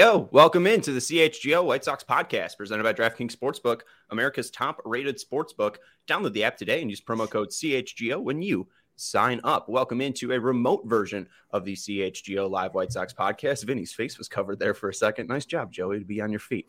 Heyo, welcome into the CHGO White Sox podcast presented by DraftKings Sportsbook, America's top-rated sportsbook. Download the app today and use promo code CHGO when you sign up. Welcome into a remote version of the CHGO Live White Sox podcast. Vinny's face was covered there for a second. Nice job, Joey, to be on your feet.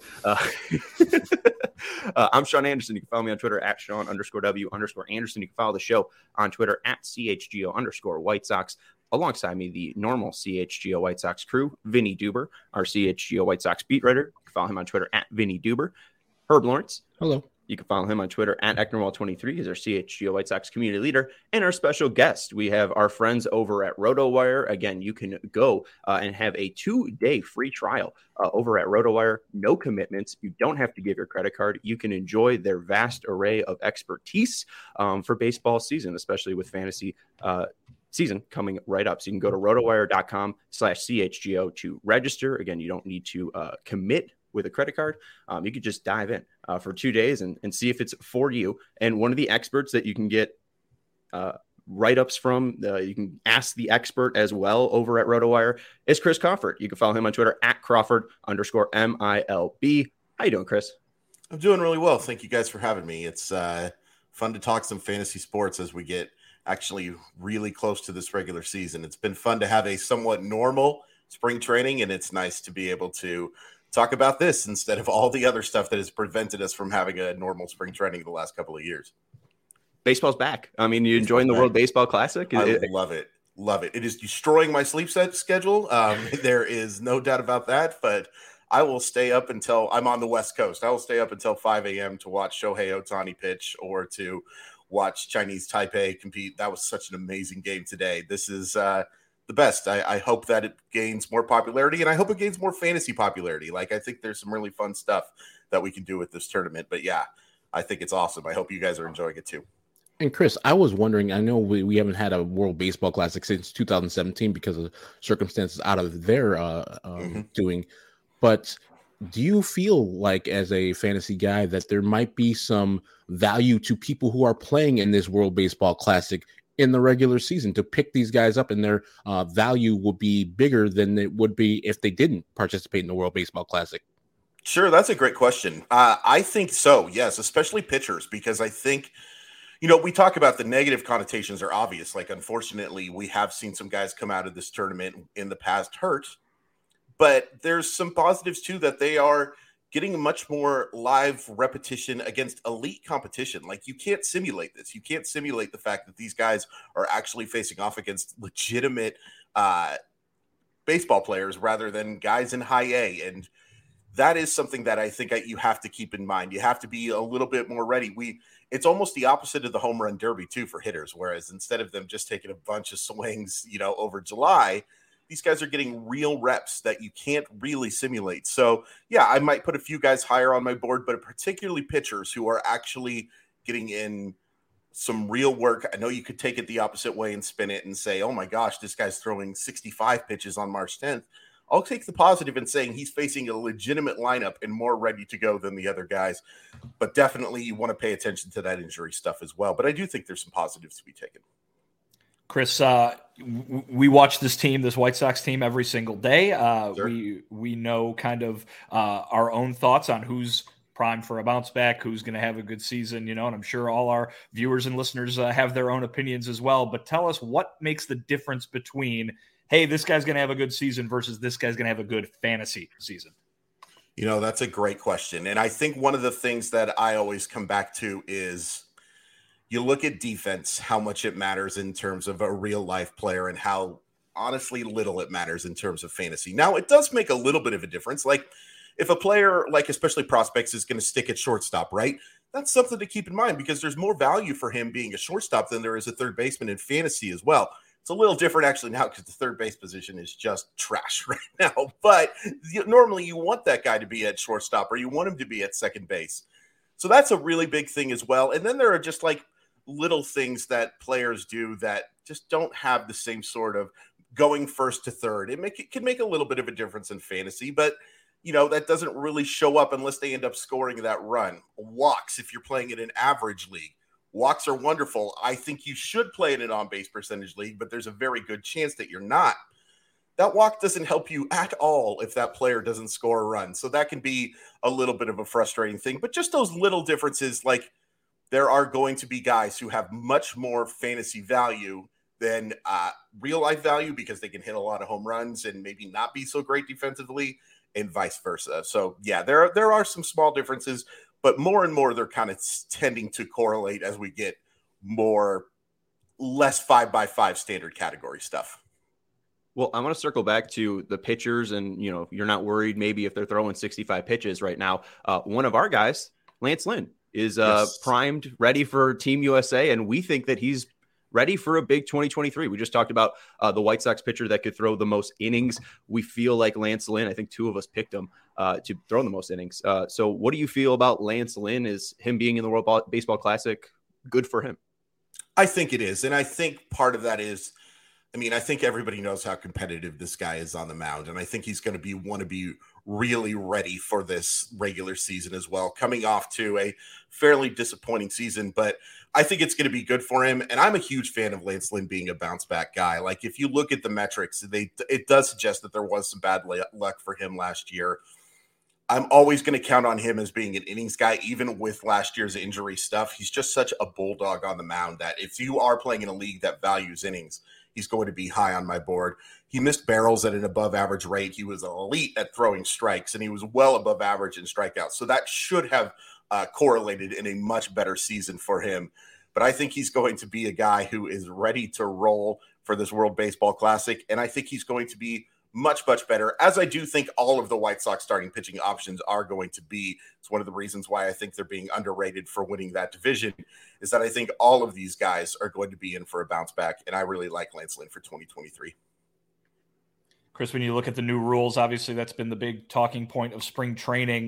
I'm Sean Anderson. You can follow me on Twitter at Sean_W_Anderson. You can follow the show on Twitter at CHGO_White Sox. Alongside me, the normal CHGO White Sox crew, Vinny Duber, our CHGO White Sox beat writer. You can follow him on Twitter at Vinny Duber. Herb Lawrence. Hello. You can follow him on Twitter at Ecknerwall23. He's our CHGO White Sox community leader. And our special guest, we have our friends over at RotoWire. Again, you can go and have a 2-day free trial over at RotoWire. No commitments. You don't have to give your credit card. You can enjoy their vast array of expertise for baseball season, especially with fantasy season coming right up. So you can go to rotowire.com/CHGO to register. Again, you don't need to commit with a credit card. You could just dive in for 2 days and see if it's for you. And one of the experts that you can get write-ups from, you can ask the expert as well over at RotoWire, is Chris Crawford. You can follow him on Twitter at Crawford_MILB. How you doing, Chris? I'm doing really well. Thank you guys for having me. It's fun to talk some fantasy sports as we get actually really close to this regular season. It's been fun to have a somewhat normal spring training, and it's nice to be able to talk about this instead of all the other stuff that has prevented us from having a normal spring training the last couple of years. Baseball's back. I mean, you enjoying the World Baseball Classic? I love it. Love it. It is destroying my sleep schedule. There is no doubt about that, but I will stay up until I'm on the West Coast. I will stay up until 5 a.m. to watch Shohei Ohtani pitch or to watch Chinese Taipei compete. That was such an amazing game today. This is the best. I hope that it gains more popularity, and I hope it gains more fantasy popularity. Like, I think there's some really fun stuff that we can do with this tournament. But yeah, I think it's awesome. I hope you guys are enjoying it too. And Chris, I was wondering, I know we haven't had a World Baseball Classic since 2017 because of circumstances out of their doing, but do you feel like, as a fantasy guy, that there might be some value to people who are playing in this World Baseball Classic in the regular season to pick these guys up, and their value will be bigger than it would be if they didn't participate in the World Baseball Classic? Sure, that's a great question. I think so, yes, especially pitchers, because I think, we talk about the negative connotations are obvious. Like, unfortunately, we have seen some guys come out of this tournament in the past hurt. But there's some positives, too, that they are getting much more live repetition against elite competition. Like, you can't simulate this. You can't simulate the fact that these guys are actually facing off against legitimate baseball players rather than guys in high A. And that is something that I think you have to keep in mind. You have to be a little bit more ready. It's almost the opposite of the home run derby, too, for hitters, whereas instead of them just taking a bunch of swings, over July, these guys are getting real reps that you can't really simulate. So, yeah, I might put a few guys higher on my board, but particularly pitchers who are actually getting in some real work. I know you could take it the opposite way and spin it and say, oh, my gosh, this guy's throwing 65 pitches on March 10th. I'll take the positive in saying he's facing a legitimate lineup and more ready to go than the other guys. But definitely you want to pay attention to that injury stuff as well. But I do think there's some positives to be taken. Chris, we watch this White Sox team, every single day. Sure. We know kind of our own thoughts on who's primed for a bounce back, who's going to have a good season, and I'm sure all our viewers and listeners have their own opinions as well. But tell us what makes the difference between, hey, this guy's going to have a good season versus this guy's going to have a good fantasy season. That's a great question. And I think one of the things that I always come back to is you look at defense, how much it matters in terms of a real life player and how honestly little it matters in terms of fantasy. Now, it does make a little bit of a difference. Like, if a player, like especially prospects, is going to stick at shortstop, right? That's something to keep in mind because there's more value for him being a shortstop than there is a third baseman in fantasy as well. It's a little different actually now because the third base position is just trash right now. But normally you want that guy to be at shortstop or you want him to be at second base. So that's a really big thing as well. And then there are just like little things that players do that just don't have the same sort of going first to third. It can make a little bit of a difference in fantasy, but that doesn't really show up unless they end up scoring that run. Walks, if you're playing in an average league. Walks are wonderful. I think you should play in an on-base percentage league, but there's a very good chance that you're not. that walk doesn't help you at all if that player doesn't score a run. So that can be a little bit of a frustrating thing. But just those little differences, like there are going to be guys who have much more fantasy value than real life value because they can hit a lot of home runs and maybe not be so great defensively, and vice versa. So yeah, there are some small differences, but more and more they're kind of tending to correlate as we get less 5x5 standard category stuff. Well, I want to circle back to the pitchers, and you're not worried maybe if they're throwing 65 pitches right now. One of our guys, Lance Lynn, is primed, ready for Team USA, and we think that he's ready for a big 2023. We just talked about the White Sox pitcher that could throw the most innings. We feel like Lance Lynn, I think two of us picked him to throw the most innings. So what do you feel about Lance Lynn? Is him being in the World Baseball Classic good for him? I think it is. And I think part of that is, I think everybody knows how competitive this guy is on the mound. And I think he's going to want to be really ready for this regular season as well, coming off to a fairly disappointing season. But I think it's going to be good for him. And I'm a huge fan of Lance Lynn being a bounce back guy. Like if you look at the metrics, it does suggest that there was some bad luck for him last year. I'm always going to count on him as being an innings guy, even with last year's injury stuff. He's just such a bulldog on the mound that if you are playing in a league that values innings, he's going to be high on my board. He missed barrels at an above average rate. He was elite at throwing strikes, and he was well above average in strikeouts. So that should have correlated in a much better season for him. But I think he's going to be a guy who is ready to roll for this World Baseball Classic. And I think he's going to be much, much better, as I do think all of the White Sox starting pitching options are going to be. It's one of the reasons why I think they're being underrated for winning that division, is that I think all of these guys are going to be in for a bounce back, and I really like Lance Lynn for 2023. Chris, when you look at the new rules, obviously that's been the big talking point of spring training.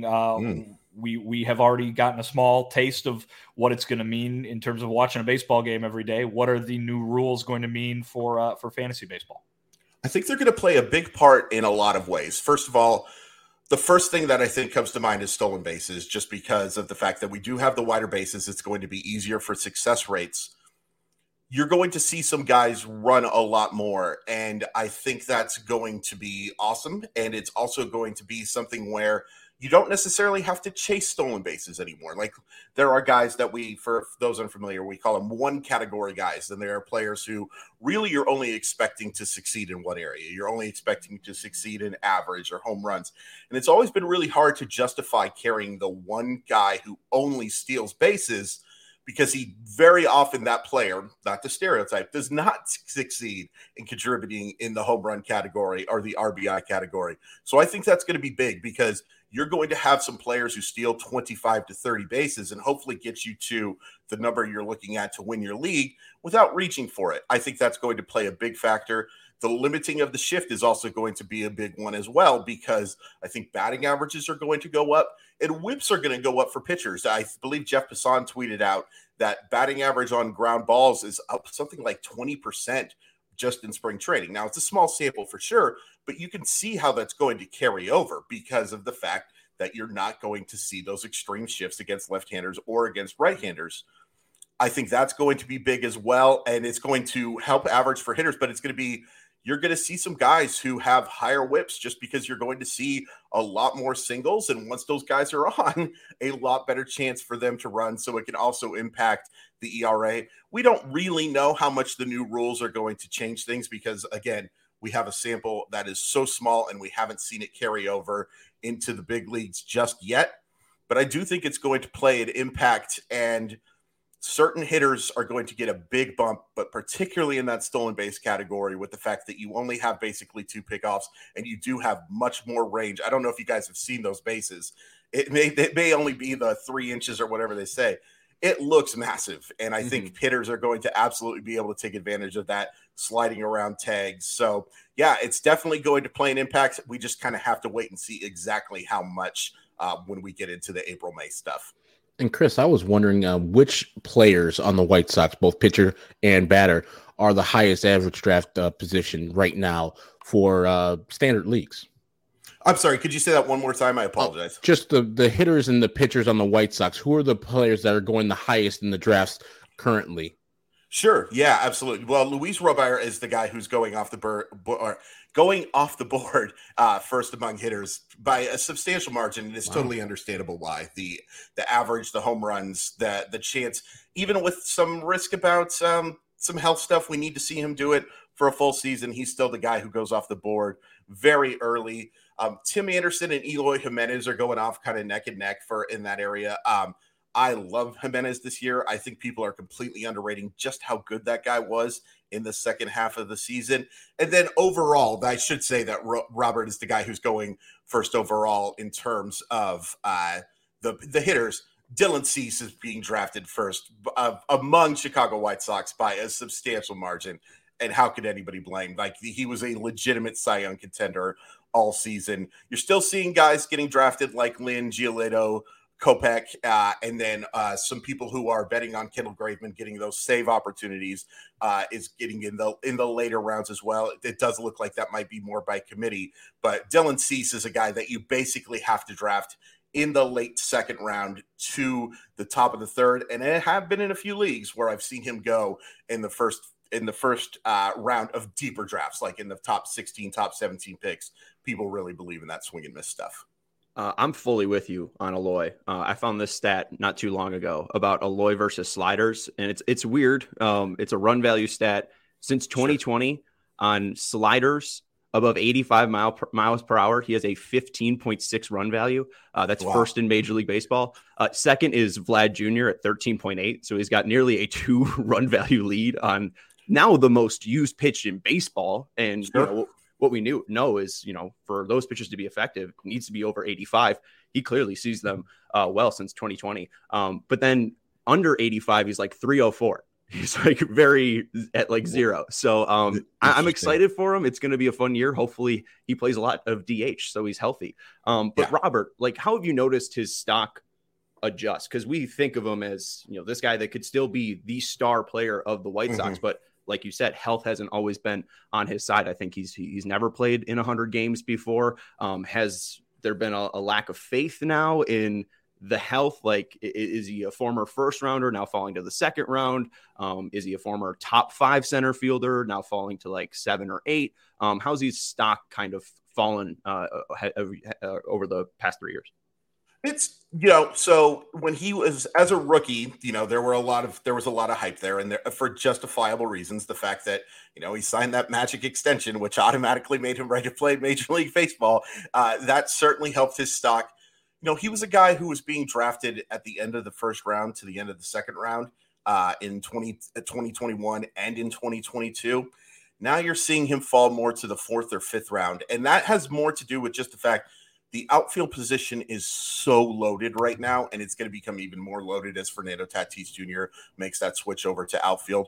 We have already gotten a small taste of what it's going to mean in terms of watching a baseball game every day. What are the new rules going to mean for fantasy baseball? I think they're going to play a big part in a lot of ways. First of all, the first thing that I think comes to mind is stolen bases, just because of the fact that we do have the wider bases. It's going to be easier for success rates. You're going to see some guys run a lot more, and I think that's going to be awesome. And it's also going to be something where you don't necessarily have to chase stolen bases anymore. Like there are guys that for those unfamiliar, we call them one category guys. And there are players who really you're only expecting to succeed in one area. You're only expecting to succeed in average or home runs. And it's always been really hard to justify carrying the one guy who only steals bases, because he very often, that player, not the stereotype, does not succeed in contributing in the home run category or the RBI category. So I think that's going to be big, because you're going to have some players who steal 25 to 30 bases and hopefully get you to the number you're looking at to win your league without reaching for it. I think that's going to play a big factor. The limiting of the shift is also going to be a big one as well, because I think batting averages are going to go up and whips are going to go up for pitchers. I believe Jeff Passan tweeted out that batting average on ground balls is up something like 20% just in spring training. Now, it's a small sample for sure, but you can see how that's going to carry over because of the fact that you're not going to see those extreme shifts against left-handers or against right-handers. I think that's going to be big as well, and it's going to help average for hitters, but you're going to see some guys who have higher whips just because you're going to see a lot more singles. And once those guys are on, a lot better chance for them to run. So it can also impact the ERA. We don't really know how much the new rules are going to change things because, again, we have a sample that is so small and we haven't seen it carry over into the big leagues just yet. But I do think it's going to play an impact, and certain hitters are going to get a big bump, but particularly in that stolen base category, with the fact that you only have basically 2 pickoffs and you do have much more range. I don't know if you guys have seen those bases. It may only be the 3 inches or whatever they say. It looks massive. And I think hitters are going to absolutely be able to take advantage of that, sliding around tags. So yeah, it's definitely going to play an impact. We just kind of have to wait and see exactly how much when we get into the April, May stuff. And Chris, I was wondering which players on the White Sox, both pitcher and batter, are the highest average draft position right now for standard leagues. I'm sorry, could you say that one more time? I apologize. Just the hitters and the pitchers on the White Sox. Who are the players that are going the highest in the drafts currently? Sure. Yeah, absolutely. Well, Luis Robert is the guy who's going off the board first among hitters by a substantial margin. And it's totally understandable why the average, the home runs, the chance, even with some risk about some health stuff, we need to see him do it for a full season. He's still the guy who goes off the board very early. Tim Anderson and Eloy Jimenez are going off kind of neck and neck in that area. I love Jimenez this year. I think people are completely underrating just how good that guy was in the second half of the season. And then overall, I should say that Robert is the guy who's going first overall in terms of the hitters. Dylan Cease is being drafted first among Chicago White Sox by a substantial margin. And how could anybody blame? Like, he was a legitimate Cy Young contender all season. You're still seeing guys getting drafted like Lynn, Giolito, Kopech, and then some people who are betting on Kendall Graveman getting those save opportunities is getting in the later rounds as well. It does look like that might be more by committee, but Dylan Cease is a guy that you basically have to draft in the late second round to the top of the third, and I have been in a few leagues where I've seen him go in the first round of deeper drafts, like in the top 16, top 17 picks. People really believe in that swing and miss stuff. I'm fully with you on Eloy. I found this stat not too long ago about Eloy versus sliders, and it's weird. It's a run value stat. Since 2020, on sliders above 85 miles per hour, he has a 15.6 run value. That's first in Major League Baseball. Second is Vlad Jr. at 13.8. So he's got nearly a 2 run value lead on now the most used pitch in baseball. And what we know is, for those pitches to be effective, it needs to be over 85. He clearly sees them well since 2020. But then under 85, he's like 304. He's like very at like 0. So I'm excited for him. It's going to be a fun year. Hopefully he plays a lot of DH, so he's healthy. But Robert, like, how have you noticed his stock adjust? Because we think of him as, this guy that could still be the star player of the White Sox, but like you said, health hasn't always been on his side. I think he's never played in 100 games before. Has there been a lack of faith now in the health? Like, is he a former first rounder now falling to the second round? Is he a former top 5 center fielder now falling to like 7 or 8? How's his stock kind of fallen over the past 3 years? It's, so when he was as a rookie, there was a lot of hype there, and for justifiable reasons. The fact that, he signed that magic extension, which automatically made him ready to play Major League Baseball, that certainly helped his stock. He was a guy who was being drafted at the end of the first round to the end of the second round in 2021 and in 2022. Now you're seeing him fall more to the 4th or 5th round, and that has more to do with just the fact the outfield position is so loaded right now, and it's going to become even more loaded as Fernando Tatis Jr. makes that switch over to outfield.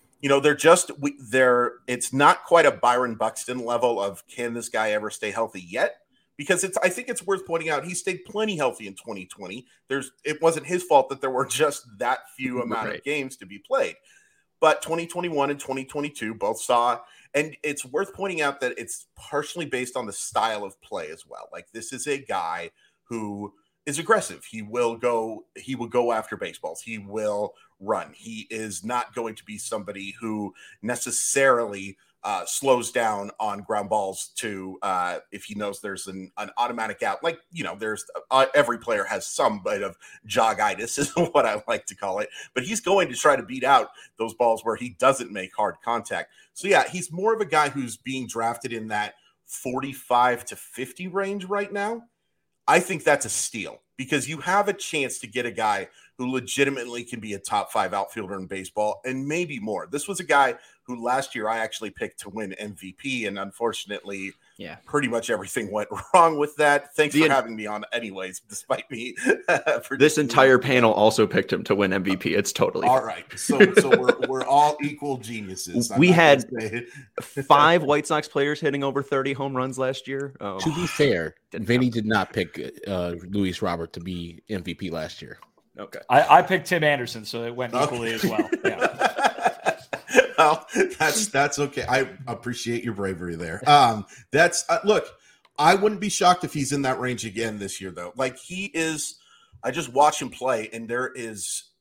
It's not quite a Byron Buxton level of, can this guy ever stay healthy yet? Because I think it's worth pointing out he stayed plenty healthy in 2020. It wasn't his fault that there were just that few amount of games to be played. But 2021 and 2022 both saw, and it's worth pointing out that it's partially based on the style of play as well. Like, this is a guy who is aggressive. He will go after baseballs. He will run. He is not going to be somebody who necessarily slows down on ground balls to if he knows there's an automatic out. Like, there's every player has some bit of jogitis is what I like to call it, but he's going to try to beat out those balls where he doesn't make hard contact. So yeah, he's more of a guy who's being drafted in that 45 to 50 range right now. I think that's a steal, because you have a chance to get a guy who legitimately can be a top 5 outfielder in baseball and maybe more. This was a guy who last year I actually picked to win MVP, and unfortunately, pretty much everything went wrong with that. Thanks for having me on anyways, despite me. This entire panel also picked him to win MVP. It's totally all right. So we're all equal geniuses. We had 5 White Sox players hitting over 30 home runs last year. To be fair, Vinny did not pick Luis Robert to be MVP last year. Okay. I picked Tim Anderson, so it went equally as well. Yeah. Well, that's okay. I appreciate your bravery there. Look, I wouldn't be shocked if he's in that range again this year, though. Like, he is, I just watch him play, and there is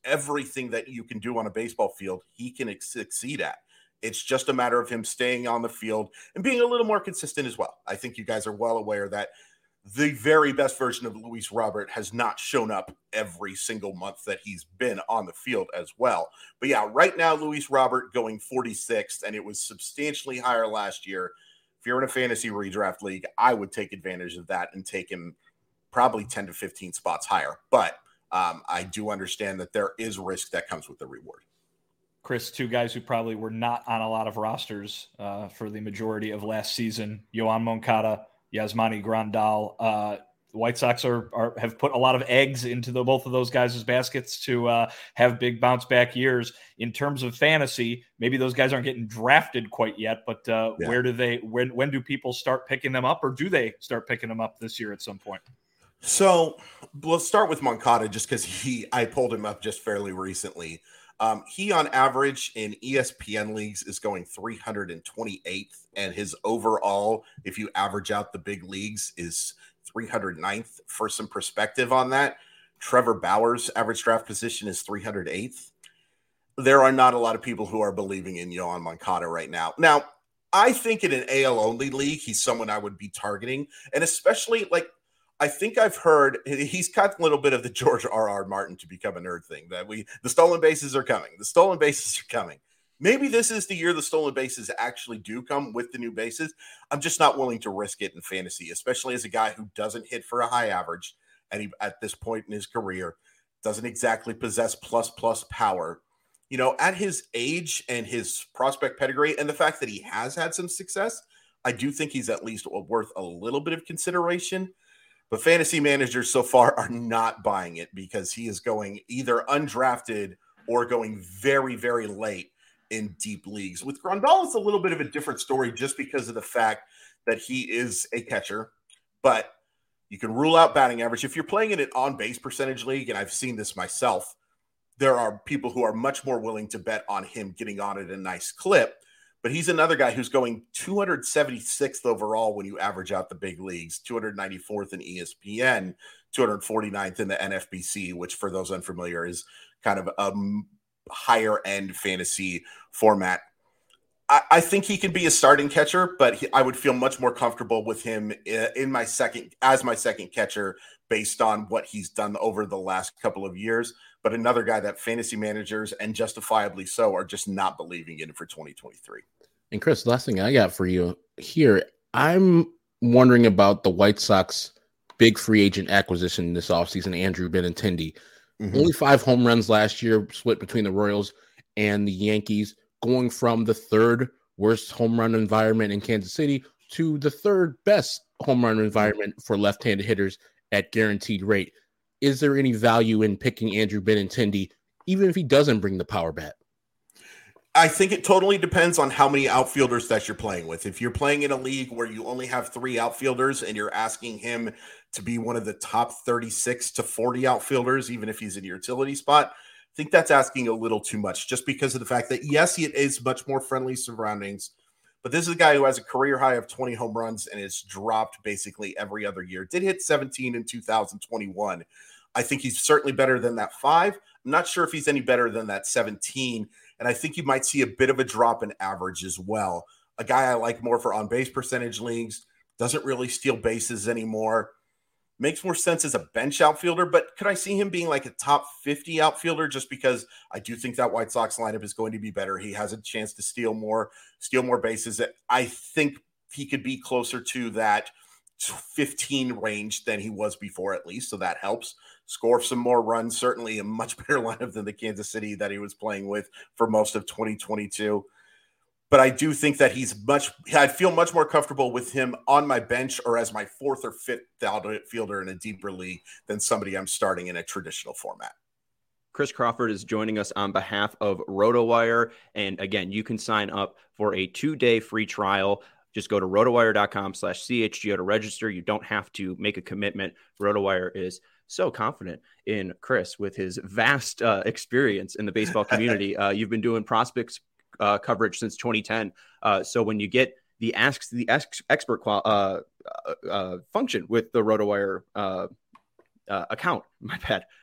everything that you can do on a baseball field, he can succeed at. It's just a matter of him staying on the field and being a little more consistent as well. I think you guys are well aware that the very best version of Luis Robert has not shown up every single month that he's been on the field as well. But yeah, right now, Luis Robert going 46th, and it was substantially higher last year. If you're in a fantasy redraft league, I would take advantage of that and take him probably 10 to 15 spots higher. But I do understand that there is risk that comes with the reward. Chris, two guys who probably were not on a lot of rosters for the majority of last season, Yoan Moncada, Yasmani Grandal. The White Sox have put a lot of eggs into both of those guys' baskets to have big bounce back years. In terms of fantasy, maybe those guys aren't getting drafted quite yet, but when do people start picking them up, or do they start picking them up this year at some point? So let's start with Moncada, just because I pulled him up just fairly recently. He on average in ESPN leagues is going 328th, and his overall, if you average out the big leagues, is 309th. For some perspective on that, Trevor Bauer's average draft position is 308th. There are not a lot of people who are believing in Yoan Moncada right now. Now, I think in an AL only league, he's someone I would be targeting, and especially I think I've heard he's got a little bit of the George R.R. Martin to become a nerd thing, that the stolen bases are coming. The stolen bases are coming. Maybe this is the year the stolen bases actually do come with the new bases. I'm just not willing to risk it in fantasy, especially as a guy who doesn't hit for a high average. And he, at this point in his career, doesn't exactly possess plus power. You know, at his age and his prospect pedigree and the fact that he has had some success, I do think he's at least worth a little bit of consideration. But fantasy managers so far are not buying it because he is going either undrafted or going very, very late in deep leagues. With Grandal, it's a little bit of a different story just because of the fact that he is a catcher, but you can rule out batting average. If you're playing in an on-base percentage league, and I've seen this myself, there are people who are much more willing to bet on him getting on at a nice clip. But he's another guy who's going 276th overall when you average out the big leagues, 294th in ESPN, 249th in the NFBC, which for those unfamiliar is kind of a higher end fantasy format. I think he can be a starting catcher, but I would feel much more comfortable with him as my second catcher based on what he's done over the last couple of years. But another guy that fantasy managers, and justifiably so, are just not believing in for 2023. And Chris, the last thing I got for you here, I'm wondering about the White Sox big free agent acquisition this offseason, Andrew Benintendi. Mm-hmm. Only 5 home runs last year, split between the Royals and the Yankees, going from the third worst home run environment in Kansas City to the third best home run environment for left-handed hitters at guaranteed rate. Is there any value in picking Andrew Benintendi, even if he doesn't bring the power bat? I think it totally depends on how many outfielders that you're playing with. If you're playing in a league where you only have 3 outfielders and you're asking him to be one of the top 36 to 40 outfielders, even if he's in your utility spot, I think that's asking a little too much, just because of the fact that, yes, it is much more friendly surroundings, but this is a guy who has a career high of 20 home runs and has dropped basically every other year. Did hit 17 in 2021. I think he's certainly better than that 5. I'm not sure if he's any better than that 17. And I think you might see a bit of a drop in average as well. A guy I like more for on-base percentage leagues, doesn't really steal bases anymore. Makes more sense as a bench outfielder, but could I see him being like a top 50 outfielder just because I do think that White Sox lineup is going to be better. He has a chance to steal more bases. I think he could be closer to that 15 range than he was before, at least. So that helps. Score some more runs, certainly a much better lineup than the Kansas City that he was playing with for most of 2022. But I do think that I'd feel much more comfortable with him on my bench or as my 4th or 5th outfielder in a deeper league than somebody I'm starting in a traditional format. Chris Crawford is joining us on behalf of RotoWire. And again, you can sign up for a 2-day free trial. Just go to rotowire.com/CHGO to register. You don't have to make a commitment. RotoWire is so confident in Chris with his vast experience in the baseball community. You've been doing prospects coverage since 2010. So when you get the Ask the Expert function with the RotoWire account, my bad,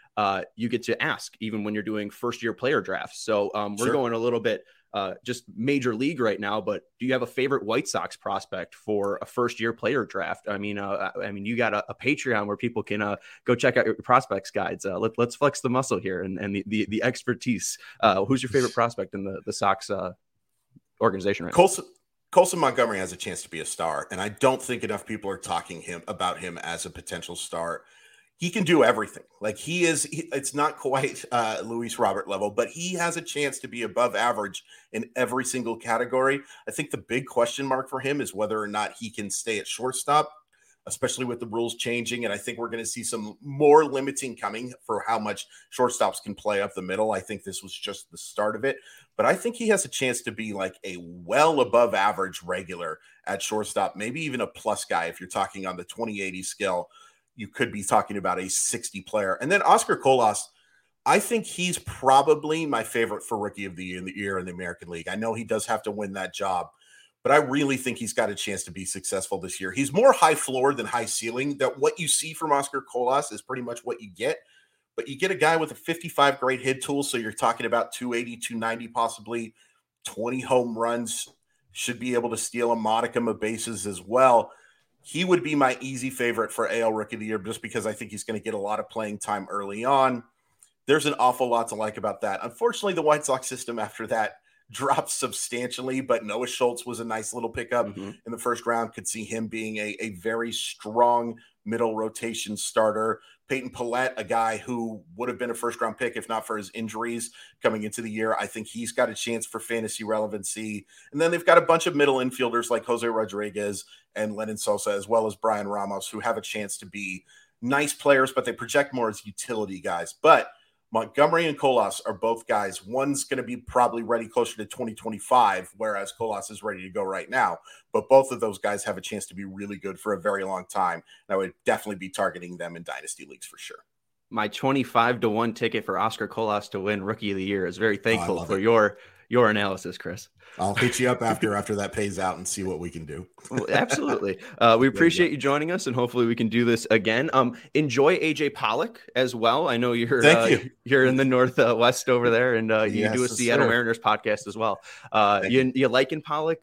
you get to ask even when you're doing first-year player drafts. So we're going a little bit just major league right now, but do you have a favorite White Sox prospect for a first-year player draft? I mean, you got a Patreon where people can go check out your prospects guides. Let's flex the muscle here and the expertise. Who's your favorite prospect in the Sox organization right now? Colson Montgomery has a chance to be a star, and I don't think enough people are talking about him as a potential star. He can do everything. Like it's not quite Luis Robert level, but he has a chance to be above average in every single category. I think the big question mark for him is whether or not he can stay at shortstop, especially with the rules changing. And I think we're going to see some more limiting coming for how much shortstops can play up the middle. I think this was just the start of it, but I think he has a chance to be like a well above average regular at shortstop, maybe even a plus guy. If you're talking on the 2080 scale, you could be talking about a 60 player. And then Oscar Colas, I think he's probably my favorite for rookie of the year in the American League. I know he does have to win that job, but I really think he's got a chance to be successful this year. He's more high floor than high ceiling. That what you see from Oscar Colas is pretty much what you get, but you get a guy with a 55 grade hit tool. So you're talking about 280, 290, possibly 20 home runs, should be able to steal a modicum of bases as well. He would be my easy favorite for AL Rookie of the Year just because I think he's going to get a lot of playing time early on. There's an awful lot to like about that. Unfortunately, the White Sox system after that dropped substantially, but Noah Schultz was a nice little pickup in the first round. Could see him being a very strong middle rotation starter. Peyton Pallette, a guy who would have been a first-round pick if not for his injuries coming into the year. I think he's got a chance for fantasy relevancy. And then they've got a bunch of middle infielders like Jose Rodriguez and Lennon Sosa, as well as Brian Ramos, who have a chance to be nice players, but they project more as utility guys. But Montgomery and Colas are both guys. One's going to be probably ready closer to 2025, whereas Colas is ready to go right now. But both of those guys have a chance to be really good for a very long time. And I would definitely be targeting them in dynasty leagues for sure. My 25-1 ticket for Oscar Colas to win Rookie of the Year is very thankful for your analysis, Chris. I'll hit you up after that pays out and see what we can do. Well, absolutely. We appreciate you joining us, and hopefully we can do this again. Enjoy AJ Pollock as well. I know you're in the Northwest over there, and you do a Seattle Mariners podcast as well. You liking Pollock?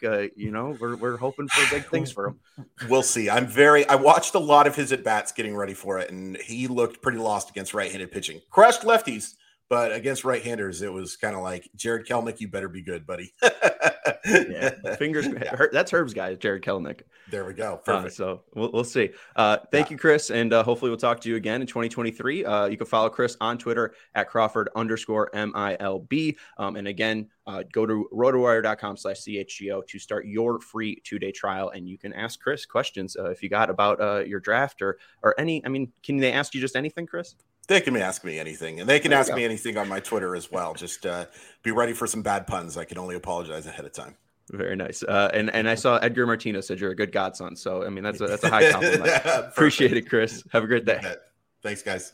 We're hoping for big things for him. We'll see. I watched a lot of his at-bats getting ready for it, and he looked pretty lost against right-handed pitching. Crushed lefties. But against right-handers, it was kind of like, Jared Kelenic, you better be good, buddy. Fingers. That's Herb's guy, Jared Kelenic. There we go. Perfect. So we'll see. Thank you, Chris, and hopefully we'll talk to you again in 2023. You can follow Chris on Twitter at Crawford_MILB. And again, go to rotowire.com/CHGO to start your free 2-day trial, and you can ask Chris questions if you got about your draft or any. I mean, can they ask you just anything, Chris? They can ask me anything, and they can ask me anything on my Twitter as well. Just be ready for some bad puns. I can only apologize ahead of time. Very nice. And I saw Edgar Martinez said you're a good godson. So, I mean, that's a high compliment. Appreciate it, Chris. Have a great day. Thanks, guys.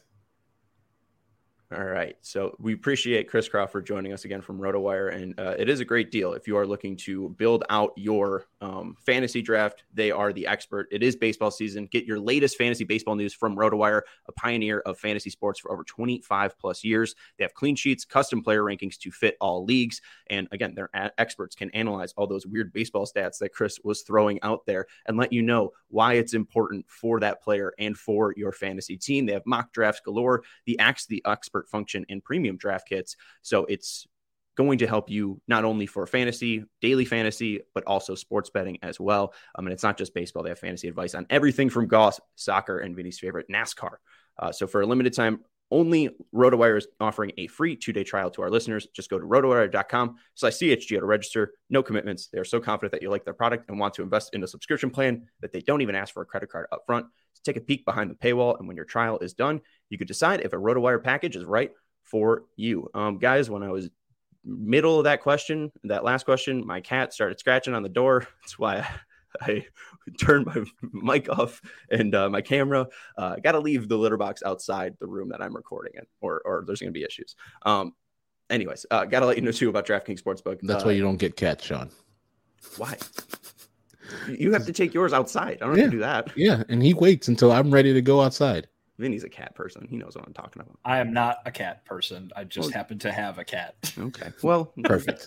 All right. So we appreciate Chris Crawford joining us again from RotoWire. And it is a great deal. If you are looking to build out your fantasy draft, they are the expert. It is baseball season. Get your latest fantasy baseball news from RotoWire, a pioneer of fantasy sports for over 25 plus years. They have clean sheets, custom player rankings to fit all leagues. And again, their experts can analyze all those weird baseball stats that Chris was throwing out there and let you know why it's important for that player and for your fantasy team. They have mock drafts galore, the Ask the Expert function, and premium draft kits. So it's going to help you not only for fantasy, daily fantasy, but also sports betting as well. And it's not just baseball. They have fantasy advice on everything from golf, soccer, and Vinny's favorite, NASCAR. So for a limited time, only RotoWire is offering a free 2-day trial to our listeners. Just go to rotowire.com/CHGO to register. No commitments. They are so confident that you like their product and want to invest in a subscription plan that they don't even ask for a credit card up front. So take a peek behind the paywall, and when your trial is done, you could decide if a RotoWire package is right for you. Guys, when I was middle of that last question, my cat started scratching on the door. That's why I turned my mic off and my camera. I got to leave the litter box outside the room that I'm recording in, or there's going to be issues. Anyways, got to let you know too about DraftKings Sportsbook. That's why you don't get cats, Sean. Why? You have to take yours outside. I don't have to do that. Yeah, and he waits until I'm ready to go outside. Vinny's a cat person. He knows what I'm talking about. I am not a cat person. I just happen to have a cat. Okay. Well, Perfect.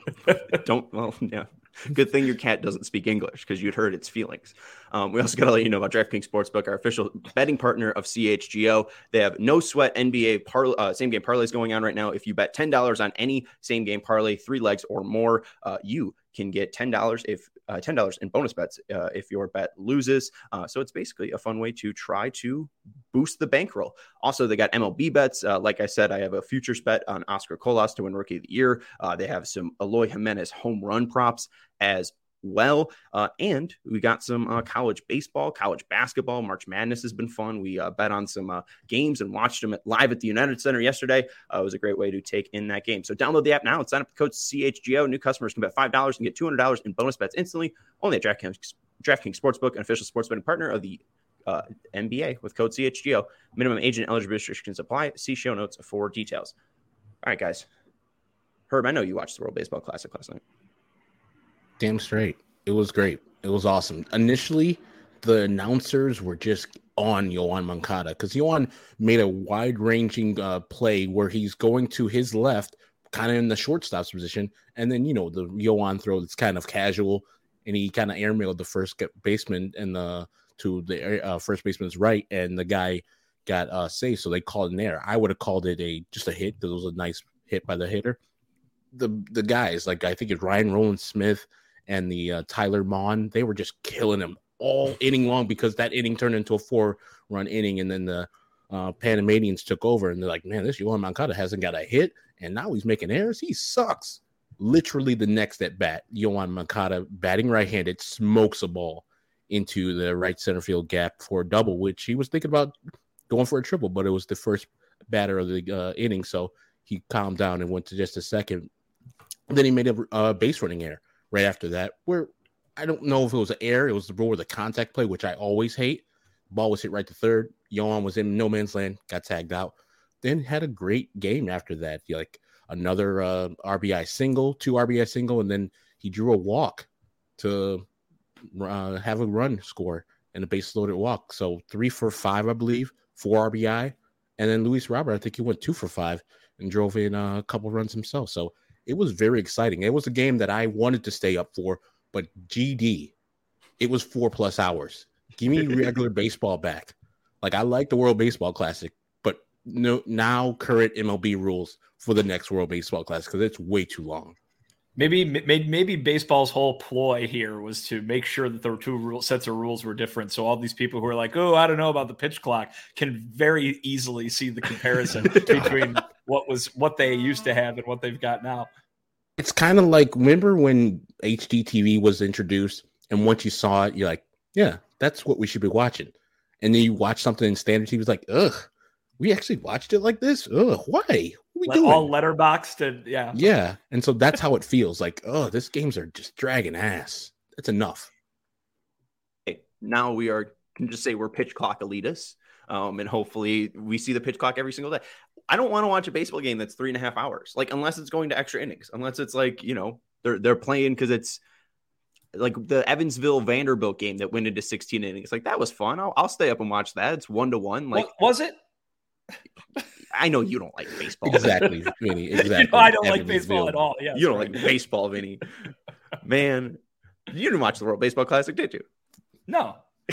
Yeah. Good thing your cat doesn't speak English because you'd hurt its feelings. We also got to let you know about DraftKings Sportsbook, our official betting partner of CHGO. They have no sweat NBA same game parlays going on right now. If you bet $10 on any same game parlay, 3 legs or more, you can get $10 in bonus bets if your bet loses. So it's basically a fun way to try to boost the bankroll. Also, they got MLB bets. Like I said, I have a futures bet on Oscar Colas to win Rookie of the Year. They have some Eloy Jimenez home run props as well. And we got some college baseball, college basketball. March Madness has been fun. We bet on some games and watched them live at the United Center yesterday. It was a great way to take in that game. So download the app now and sign up with code CHGO. New customers can bet $5 and get $200 in bonus bets instantly. Only at DraftKings Sportsbook, an official sports betting partner of the NBA with code CHGO. Minimum age and eligibility restrictions apply. See show notes for details. All right, guys. Herb, I know you watched the World Baseball Classic last night. Damn straight. It was great. It was awesome. Initially, the announcers were just on Yoan Moncada because Yoan made a wide-ranging play where he's going to his left, kind of in the shortstop's position, and then, the Yoan throw that's kind of casual, and he kind of airmailed the first baseman to the first baseman's right, and the guy got safe, so they called an error. I would have called it just a hit because it was a nice hit by the hitter. The guys, like I think it's Ryan Rowland-Smith and the Tyler Mon, they were just killing him all inning long because that inning turned into a 4-run inning, and then the Panamanians took over, and they're like, man, this Yoan Moncada hasn't got a hit, and now he's making errors. He sucks. Literally the next at bat, Yoan Moncada, batting right-handed, smokes a ball into the right center field gap for a double, which he was thinking about going for a triple, but it was the first batter of the inning, so he calmed down and went to just a second. And then he made a base running error right after that, where I don't know if it was an error. It was the rule of the contact play, which I always hate. Ball was hit right to third. Yoan was in no man's land, got tagged out. Then had a great game after that. Like another RBI single, 2 RBI single, and then he drew a walk to have a run score and a base loaded walk. So 3 for 5, I believe, 4 RBI. And then Luis Robert, I think he went 2 for 5 and drove in a couple runs himself. So it was very exciting. It was a game that I wanted to stay up for, but GD, it was 4+ hours. Give me regular baseball back. Like, I like the World Baseball Classic, but now current MLB rules for the next World Baseball Classic because it's way too long. Maybe baseball's whole ploy here was to make sure that the 2 sets of rules were different. So all these people who are like, oh, I don't know about the pitch clock, can very easily see the comparison between what they used to have and what they've got now. It's kind of like, remember when HDTV was introduced, and once you saw it, you're like, yeah, that's what we should be watching. And then you watch something in standard TV, it's like, ugh, we actually watched it like this? Ugh, why? What are we doing? All letterboxed and yeah. Yeah. And so that's how it feels. Like, oh, these games are just dragging ass. That's enough. Okay, now we can just say we're pitch clock elitists. And hopefully we see the pitch clock every single day. I don't want to watch a baseball game that's 3.5 hours, like, unless it's going to extra innings, unless it's like, they're playing because it's like the Evansville Vanderbilt game that went into 16 innings. Like, that was fun. I'll stay up and watch that. It's 1-1. Like, what was it? I know you don't like baseball. Exactly, Vinny. Exactly. I don't like baseball at all. Yeah, you don't like baseball, Vinny. Man, you didn't watch the World Baseball Classic, did you? No.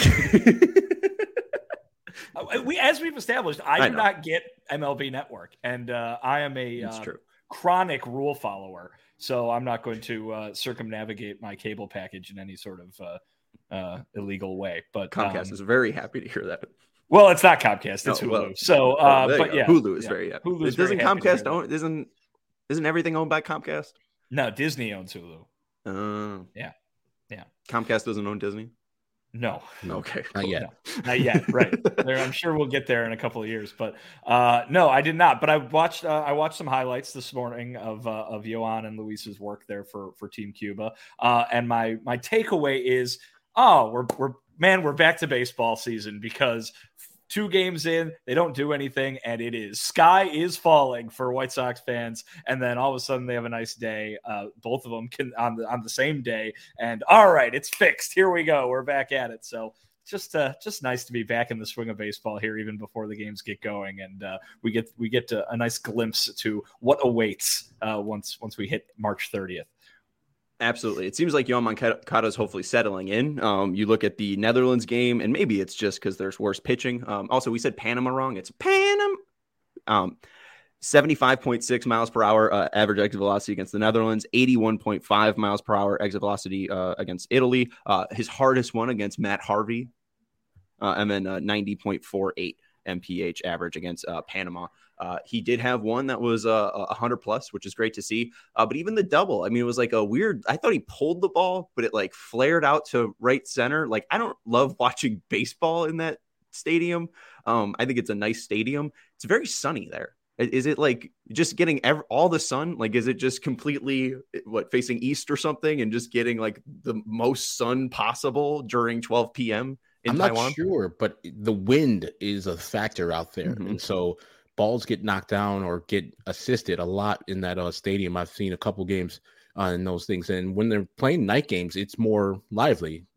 As we've established, I do not get MLB Network, and I am a chronic rule follower, so I'm not going to circumnavigate my cable package in any sort of illegal way. But Comcast is very happy to hear that. Well, it's not Comcast; it's Hulu. But yeah, Hulu is very happy. Hulu doesn't Comcast own? Isn't everything owned by Comcast? No, Disney owns Hulu. Yeah. Comcast doesn't own Disney. No. Okay. Not yet. No, not yet. Right. I'm sure we'll get there in a couple of years, but no, I did not. But I watched some highlights this morning of Yoan and Luis's work there for Team Cuba. And my takeaway is, we're back to baseball season, because 2 games in, they don't do anything, and sky is falling for White Sox fans, and then all of a sudden they have a nice day. Both of them can on the same day, and all right, it's fixed. Here we go. We're back at it. So just nice to be back in the swing of baseball here, even before the games get going, and we get a nice glimpse to what awaits once we hit March 30th. Absolutely. It seems like Yoan Moncada is hopefully settling in. You look at the Netherlands game, and maybe it's just because there's worse pitching. Also, we said Panama wrong. It's Panama. 75.6 miles per hour average exit velocity against the Netherlands, 81.5 miles per hour exit velocity against Italy. His hardest one against Matt Harvey, and then 90.48 mph average against Panama. He did have one that was 100 plus, which is great to see. But even the double, I mean, it was like a weird, I thought he pulled the ball, but it like flared out to right center. Like, I don't love watching baseball in that stadium. I think it's a nice stadium. It's very sunny there. Is it like just getting all the sun? Like, is it just completely facing east or something and just getting like the most sun possible during 12 p.m. in Taiwan? Not sure, but the wind is a factor out there. Mm-hmm. And so balls get knocked down or get assisted a lot in that stadium. I've seen a couple games in those things. And when they're playing night games, it's more lively.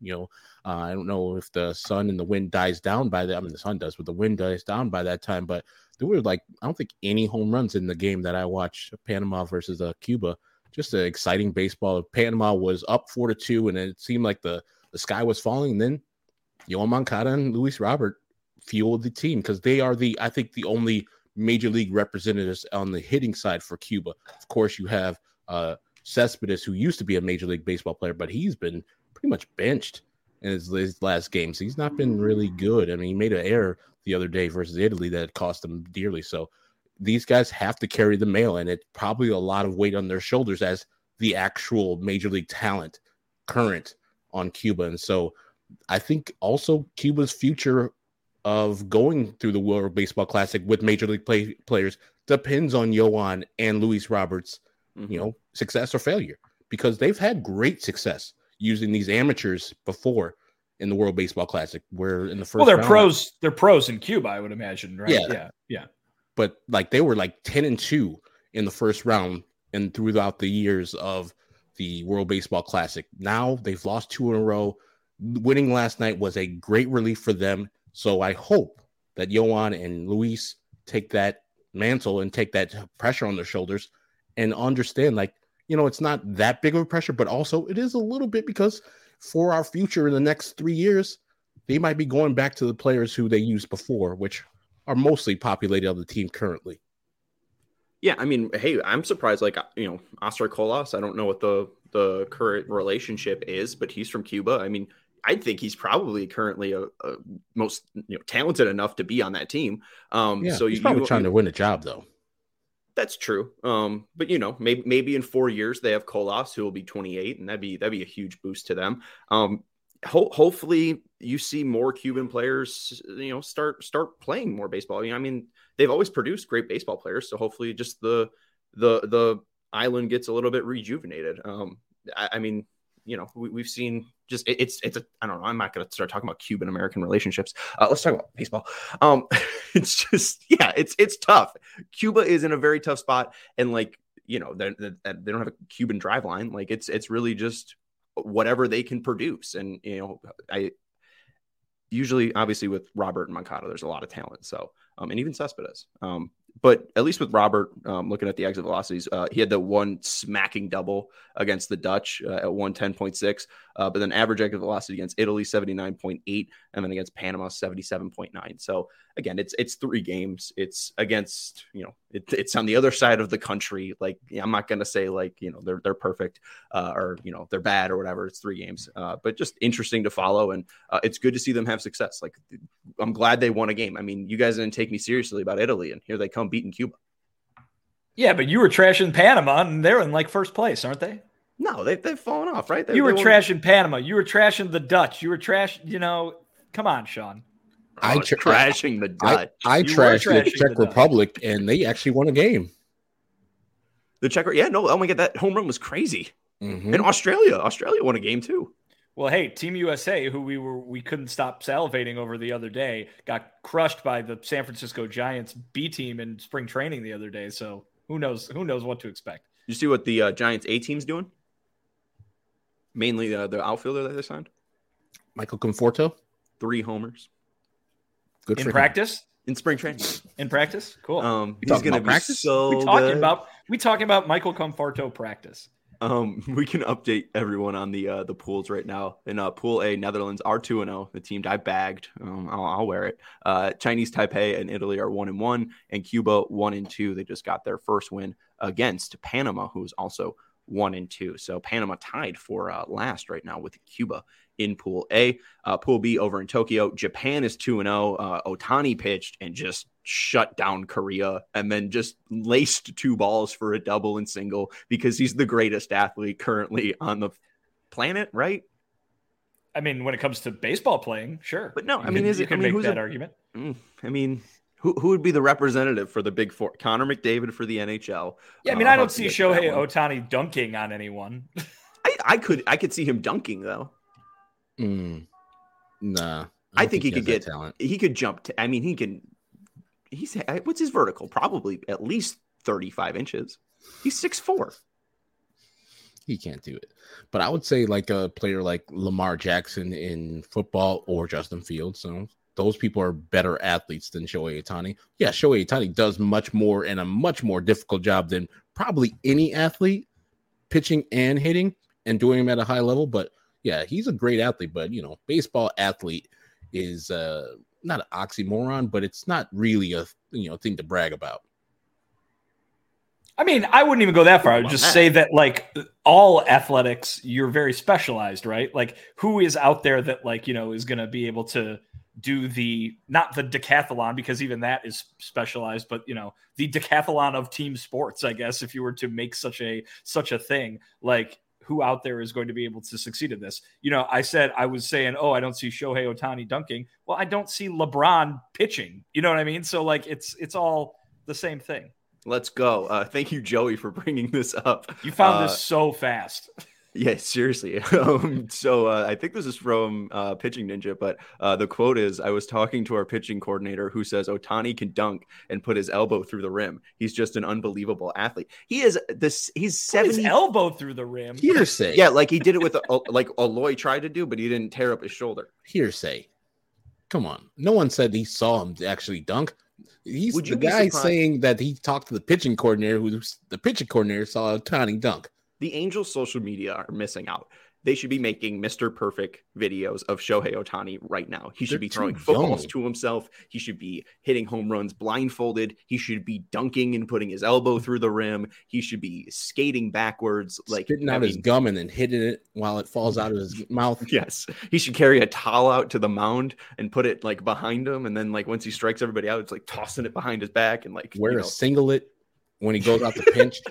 I don't know if the sun and the wind dies down by that. I mean, the sun does, but the wind dies down by that time. But there were I don't think any home runs in the game that I watched, Panama versus Cuba. Just an exciting baseball. Panama was up 4-2, and it seemed like the sky was falling. And then Yoan Moncada and Luis Robert fueled the team because they are I think the only major league representatives on the hitting side for Cuba. Of course, you have Cespedes, who used to be a major league baseball player, but he's been pretty much benched in his last games. He's not been really good. I mean, he made an error the other day versus Italy that cost them dearly. So these guys have to carry the mail, and it's probably a lot of weight on their shoulders as the actual major league talent current on Cuba. And so I think also Cuba's future of going through the World Baseball Classic with major league players depends on Yoan and Luis Roberts, success or failure, because they've had great success using these amateurs before in the World Baseball Classic, where in the first they're pros. They're pros in Cuba, I would imagine, right? Yeah. But like they were like 10-2 in the first round and throughout the years of the World Baseball Classic. Now they've lost 2 in a row. Winning last night was a great relief for them. So I hope that Yoan and Luis take that mantle and take that pressure on their shoulders and understand, it's not that big of a pressure, but also it is a little bit because for our future in the next 3 years, they might be going back to the players who they used before, which are mostly populated on the team currently. Yeah, I mean, hey, I'm surprised. Oscar Colas, I don't know what the current relationship is, but he's from Cuba. I mean, I think he's probably currently a most talented enough to be on that team. So he's probably trying to win a job, though. That's true. But maybe in 4 years they have Colas, who will be 28, and that'd be a huge boost to them. Hopefully you see more Cuban players, start playing more baseball. I mean, they've always produced great baseball players, so hopefully just the island gets a little bit rejuvenated. I mean, we've seen just I don't know. I'm not going to start talking about Cuban American relationships. Let's talk about baseball. It's just, it's tough. Cuba is in a very tough spot. And they don't have a Cuban drive line. Like it's really just whatever they can produce. And, I usually, obviously with Robert and Moncada, there's a lot of talent. So, and even Cespedes. But at least with Robert, looking at the exit velocities, he had the one smacking double against the Dutch at 110.6, but then average exit velocity against Italy, 79.8, and then against Panama, 77.9. So again, it's 3 games. It's against, it's on the other side of the country. I'm not going to say they're perfect or, they're bad or whatever. It's 3 games, but just interesting to follow. And it's good to see them have success. I'm glad they won a game. I mean, you guys didn't take me seriously about Italy, and here they come beating Cuba. Yeah, but you were trashing Panama, and they're in first place, aren't they? No, they've fallen off, right? You were trashing Panama. You were trashing the Dutch. You were come on, Sean. Trashing the Dutch. I trashed the Czech Republic, and they actually won a game. The Czech, oh my God, that home run was crazy. Mm-hmm. And Australia won a game too. Well, hey, Team USA, who we couldn't stop salivating over the other day, got crushed by the San Francisco Giants B team in spring training the other day. So who knows what to expect. You see what the Giants A team's doing? Mainly the outfielder that they signed. Michael Conforto. 3 homers. Good in for him. practice. In spring training. In practice, cool. He's going to be practice? so We talking about Michael Conforto practice. We can update everyone on the pools right now. In Pool A, Netherlands are 2-0. The team I bagged. I'll wear it. Chinese Taipei and Italy are 1-1, and Cuba 1-2. They just got their first win against Panama, who's also 1-2. So Panama tied for last right now with Cuba in Pool A. Pool B over in Tokyo, Japan is 2-0. Ohtani pitched and just shut down Korea and then just laced 2 balls for a double and single because he's the greatest athlete currently on the planet, right? I mean, when it comes to baseball playing, sure. But no, I mean, you can make that argument. I mean, who would be the representative for the Big Four? Connor McDavid for the NHL. Yeah, I mean, I don't see Shohei Ohtani dunking on anyone. I could see him dunking though. Nah, I think he could get talent. He could jump. I mean, he can. What's his vertical? Probably at least 35 inches. He's 6'4". He can't do it. But I would say like a player like Lamar Jackson in football or Justin Fields. So those people are better athletes than Shohei Ohtani. Yeah, Shohei Ohtani does much more and a much more difficult job than probably any athlete, pitching and hitting and doing them at a high level. But yeah, he's a great athlete. But, baseball athlete is not an oxymoron, but it's not really a thing to brag about. I mean, I wouldn't even go that far. I would just say that, like, all athletics, you're very specialized, right? Like, who is out there that, like, is going to be able to do not the decathlon, because even that is specialized, but, the decathlon of team sports, I guess, if you were to make such a thing, like, who out there is going to be able to succeed in this? I was saying, I don't see Shohei Ohtani dunking. Well, I don't see LeBron pitching. You know what I mean? So, like, it's all the same thing. Let's go. Thank you, Joey, for bringing this up. You found this so fast. Yeah, seriously. So I think this is from Pitching Ninja, but the quote is, I was talking to our pitching coordinator who says Ohtani can dunk and put his elbow through the rim. He's just an unbelievable athlete. He's 70. His elbow through the rim. Hearsay. Yeah, like he did it with like Aloy tried to do, but he didn't tear up his shoulder. Hearsay. Come on. No one said he saw him actually dunk. He's the guy saying that he talked to the pitching coordinator, the pitching coordinator saw Ohtani dunk. The Angels' social media are missing out. They should be making Mr. Perfect videos of Shohei Ohtani right now. He should be throwing footballs to himself. He should be hitting home runs blindfolded. He should be dunking and putting his elbow through the rim. He should be skating backwards, like spitting out his gum and then hitting it while it falls out of his mouth. Yes. He should carry a towel out to the mound and put it like behind him. And then like once he strikes everybody out, it's like tossing it behind his back and like wear a singlet when he goes out to pinch.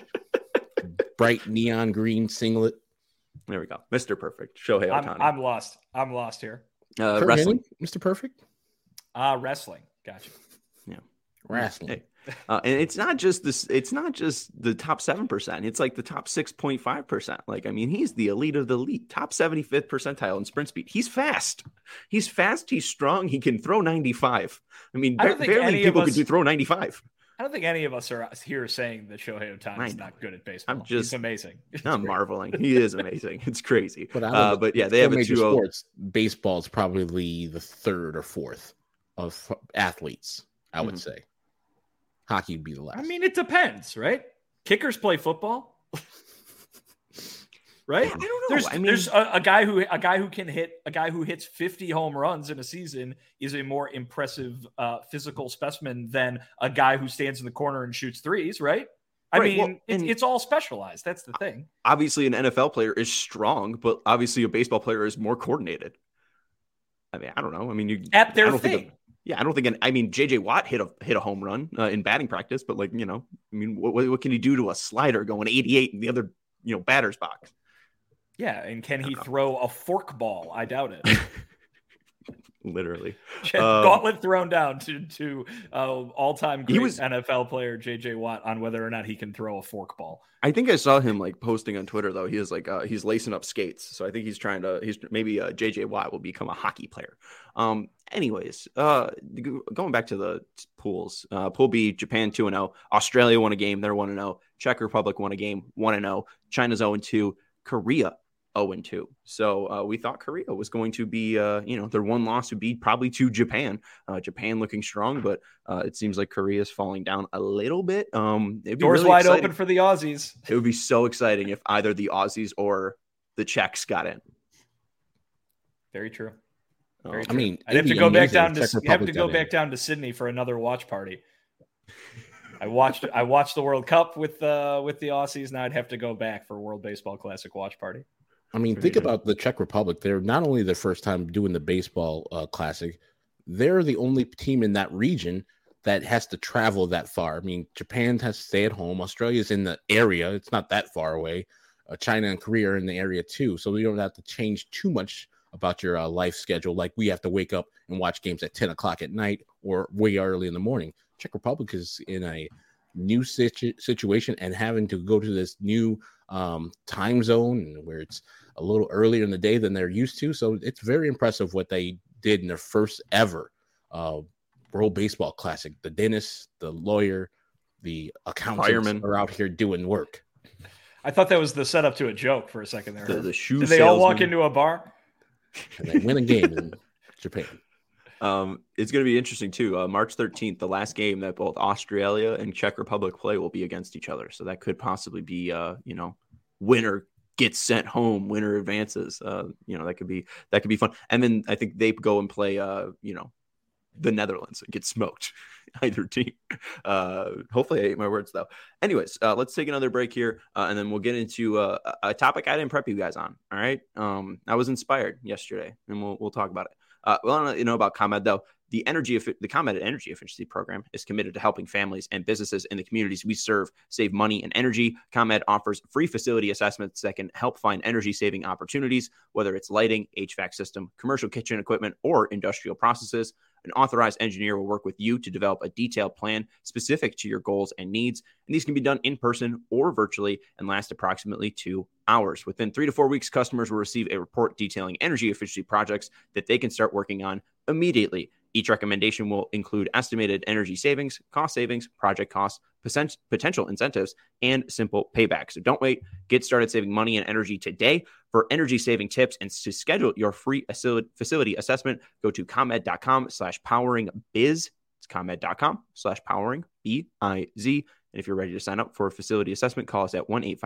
Bright neon green singlet. There we go. Mr. Perfect. Shohei Ohtani. I'm lost here. Wrestling. Mr. Perfect? Wrestling. Gotcha. Yeah. Wrestling. Hey. And it's not just this. It's not just the top 7%. It's like the top 6.5%. Like, I mean, he's the elite of the elite. Top 75th percentile in sprint speed. He's fast. He's strong. He can throw 95. I mean, barely people can throw 95. I don't think any of us are here saying that Shohei Ohtani is not good at baseball. He's amazing. I'm marveling. He is amazing. It's crazy. But yeah, they have a 2-0. Sports. Baseball is probably the third or fourth of athletes, I would say. Hockey would be the last. I mean, it depends, right? Kickers play football. Right? Yeah, I don't know. There's a guy who hits 50 home runs in a season is a more impressive physical specimen than a guy who stands in the corner and shoots threes, right? I mean, it's all specialized. That's the thing. Obviously, an NFL player is strong, but obviously a baseball player is more coordinated. I mean, I don't know. I mean, at their thing. I don't think. JJ Watt hit a home run in batting practice, but like, I mean, what can he do to a slider going 88 in the other, batter's box? Yeah, and can he throw a fork ball? I doubt it. Literally. Gauntlet thrown down to all-time great NFL player J.J. Watt on whether or not he can throw a fork ball. I think I saw him like posting on Twitter, though. He is like he's lacing up skates. So I think he's maybe J.J. Watt will become a hockey player. Anyways, going back to the pools, Pool B, Japan 2-0, Australia won a game, they're 1-0, Czech Republic won a game, 1-0, China's 0-2, Korea 0-2. So we thought Korea was going to be, their one loss would be probably to Japan. Japan looking strong, but it seems like Korea is falling down a little bit. It'd be Doors really wide exciting. open for the Aussies. It would be so exciting if either the Aussies or the Czechs got in. Very true. Very true. I mean, I'd have to go back down to Sydney for another watch party. I watched the World Cup with the Aussies. Now I'd have to go back for World Baseball Classic watch party. I mean, think about the Czech Republic. They're not only the first time doing the baseball classic, they're the only team in that region that has to travel that far. I mean, Japan has to stay at home. Australia's in the area. It's not that far away. China and Korea are in the area too. So you don't have to change too much about your life schedule. Like we have to wake up and watch games at 10 o'clock at night or way early in the morning. Czech Republic is in a new situation and having to go to this new time zone where it's a little earlier in the day than they're used to. So it's very impressive what they did in their first ever World Baseball Classic. The dentist, the lawyer, the accountants are out here doing work. I thought that was the setup to a joke for a second there. The shoe Did they all walk into a bar? And they win a game in Japan. It's going to be interesting too. March 13th, the last game that both Australia and Czech Republic play will be against each other. So that could possibly be, winner gets sent home, winner advances. That could be fun. And then I think they go and play, the Netherlands and get smoked. Either team. Hopefully I ate my words though. Anyways, let's take another break here, and then we'll get into a topic I didn't prep you guys on. All right. I was inspired yesterday, and we'll talk about it. I don't know about ComEd though. The ComEd Energy Efficiency Program is committed to helping families and businesses in the communities we serve save money and energy. ComEd offers free facility assessments that can help find energy-saving opportunities, whether it's lighting, HVAC system, commercial kitchen equipment, or industrial processes. An authorized engineer will work with you to develop a detailed plan specific to your goals and needs. And these can be done in person or virtually and last approximately 2 hours. Within 3 to 4 weeks, customers will receive a report detailing energy efficiency projects that they can start working on immediately. Each recommendation will include estimated energy savings, cost savings, project costs, potential incentives, and simple payback. So don't wait. Get started saving money and energy today. For energy saving tips and to schedule your free facility assessment, go to ComEd.com/poweringbiz. It's ComEd.com/poweringbiz. And if you're ready to sign up for a facility assessment, call us at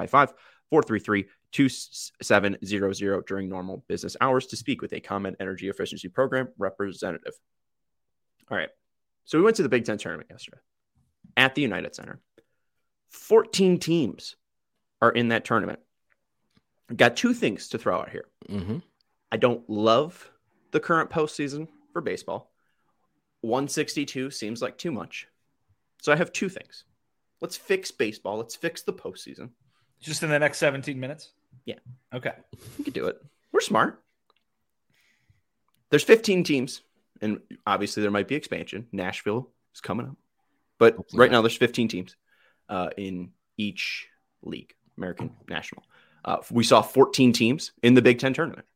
1-855-433-2700 during normal business hours to speak with a ComEd Energy Efficiency Program representative. All right. So we went to the Big Ten tournament yesterday at the United Center. 14 teams are in that tournament. Got 2 things to throw out here. Mm-hmm. I don't love the current postseason for baseball. 162 seems like too much. So I have 2 things. Let's fix baseball. Let's fix the postseason. Just in the next 17 minutes? Yeah. Okay. We could do it. We're smart. There's 15 teams. And obviously there might be expansion. Nashville is coming up. But right now there's 15 teams in each league, American National. We saw 14 teams in the Big Ten tournament.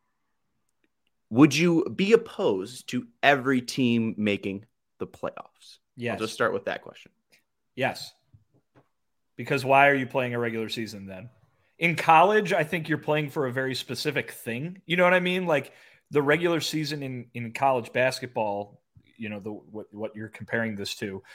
Would you be opposed to every team making the playoffs? Yes. I'll just start with that question. Yes. Because why are you playing a regular season then? In college, I think you're playing for a very specific thing. You know what I mean? Like, the regular season in college basketball, what you're comparing this to,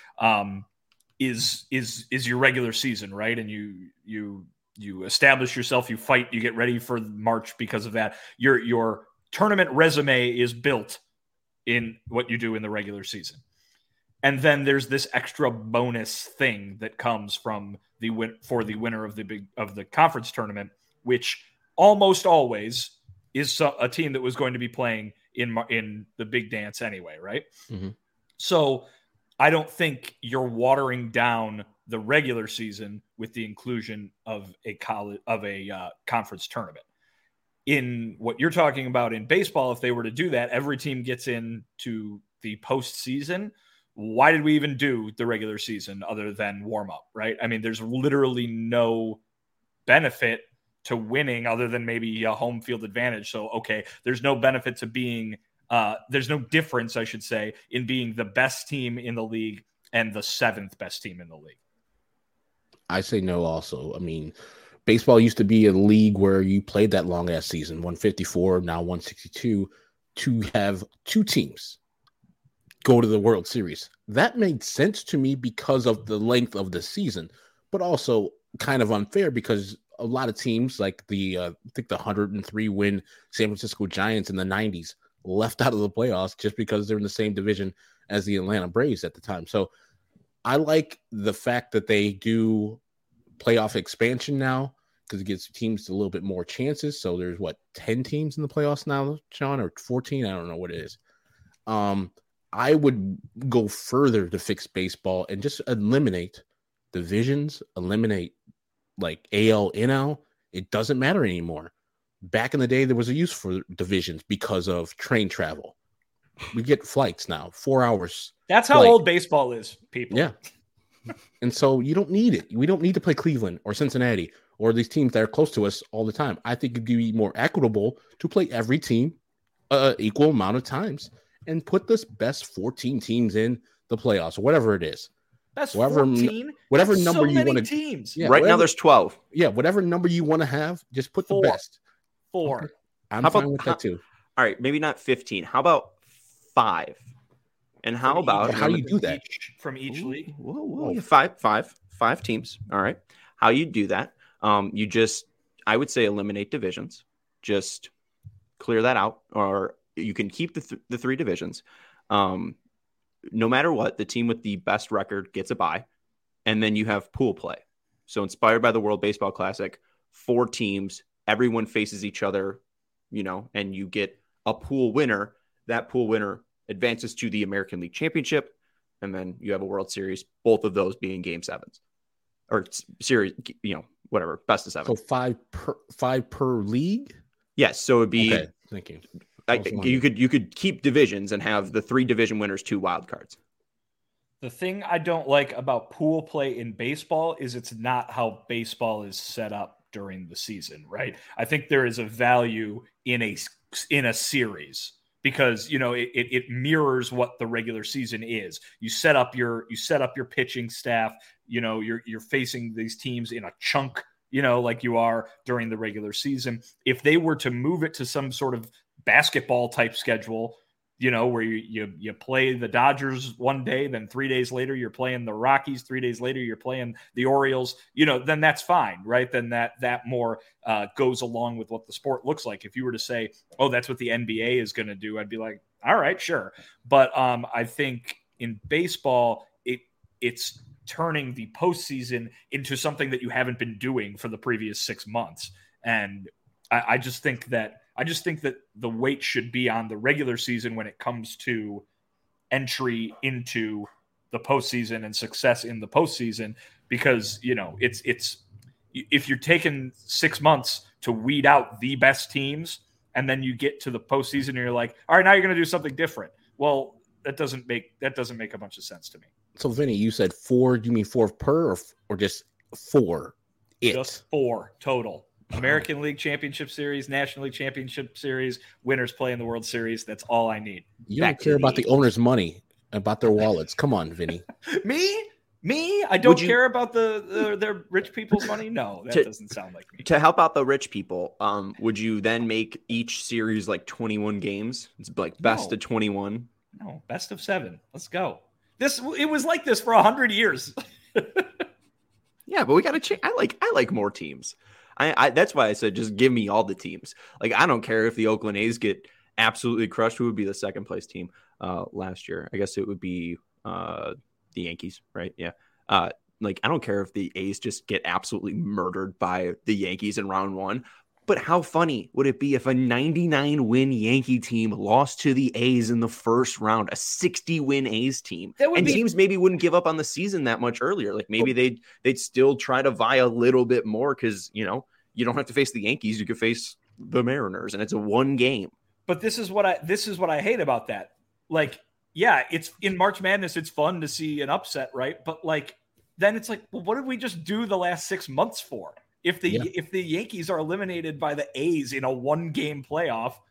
is your regular season, right? And you establish yourself, you fight, you get ready for March because of that. Your tournament resume is built in what you do in the regular season, and then there's this extra bonus thing that comes from the winner of the conference tournament, which almost always is a team that was going to be playing in the big dance anyway, right? Mm-hmm. So I don't think you're watering down the regular season with the inclusion of a conference tournament. In what you're talking about in baseball, if they were to do that, every team gets into the postseason. Why did we even do the regular season other than warm up, right? I mean, there's literally no benefit to winning other than maybe a home field advantage. So, okay, there's no benefit to being, there's no difference, I should say, in being the best team in the league and the 7th best team in the league. I say no also. I mean, baseball used to be a league where you played that long ass season, 154, now 162, to have two teams go to the World Series. That made sense to me because of the length of the season, but also kind of unfair because a lot of teams like I think the 103 win San Francisco Giants in the 90s left out of the playoffs just because they're in the same division as the Atlanta Braves at the time. So I like the fact that they do playoff expansion now because it gives teams a little bit more chances. So there's 10 teams in the playoffs now, Sean, or 14? I don't know what it is. I would go further to fix baseball and just eliminate divisions, eliminate like AL, NL. It doesn't matter anymore. Back in the day, there was a use for divisions because of train travel. We get flights now, 4 hours. That's how old baseball is, people. Yeah. And so you don't need it. We don't need to play Cleveland or Cincinnati or these teams that are close to us all the time. I think it'd be more equitable to play every team equal amount of times and put the best 14 teams in the playoffs, or whatever it is. That's 14? Whatever That's number so you want to. teams. Yeah, right now there's 12. Yeah, whatever number you want to have, just put the best. 4. Okay. I'm fine with that too. All right, maybe not 15. How about 5? And how about how do you do that from each league? Whoa. Yeah, five teams. All right. How you do that? I would say eliminate divisions. Just clear that out, or you can keep the 3 divisions. No matter what, the team with the best record gets a bye, and then you have pool play. So inspired by the World Baseball Classic, 4 teams, everyone faces each other, and you get a pool winner. That pool winner advances to the American League Championship, and then you have a World Series, both of those being game 7s or series, whatever, best of 7. So 5 per league? Yes. So it'd be, okay, thank you. You could keep divisions and have the 3 division winners, 2 wild cards. The thing I don't like about pool play in baseball is it's not how baseball is set up during the season, right? I think there is a value in a series because it mirrors what the regular season is. You set up your pitching staff. You're facing these teams in a chunk. Like you are during the regular season. If they were to move it to some sort of basketball type schedule, where you play the Dodgers one day, then 3 days later you're playing the Rockies, 3 days later you're playing the Orioles, then that's fine, right? Then that more goes along with what the sport looks like. If you were to say, oh, that's what the NBA is going to do, I'd be like, all right, sure. But I think in baseball, it's turning the postseason into something that you haven't been doing for the previous 6 months. And I just think that the weight should be on the regular season when it comes to entry into the postseason and success in the postseason, because it's if you're taking 6 months to weed out the best teams and then you get to the postseason and you're like, all right, now you're going to do something different. Well, that doesn't make a bunch of sense to me. So Vinny, you said 4. Do you mean 4 per or just 4? Just 4 total. American League Championship Series, National League Championship Series, winners play in the World Series. That's all I need. You don't care about the owner's money, about their wallets. Come on, Vinny. Me? I don't care about their rich people's money? No, that doesn't sound like me. To help out the rich people, would you then make each series like 21 games? It's like best of 21? No, best of 7. Let's go. It was like this for 100 years. Yeah, but we got to change. I like more teams. I that's why I said just give me all the teams. Like I don't care if the Oakland A's get absolutely crushed. Who would be the second place team last year? I guess it would be the Yankees, right? Yeah. Like I don't care if the A's just get absolutely murdered by the Yankees in round 1. But how funny would it be if a 99-win Yankee team lost to the A's in the first round, a 60-win A's team? Teams maybe wouldn't give up on the season that much earlier. Like maybe they'd still try to vie a little bit more because, you don't have to face the Yankees. You could face the Mariners, and it's a 1 game. But this is what I hate about that. Like, yeah, it's in March Madness. It's fun to see an upset, right? But like, then it's like, well, what did we just do the last 6 months for? If the Yankees are eliminated by the A's in a 1-game playoff,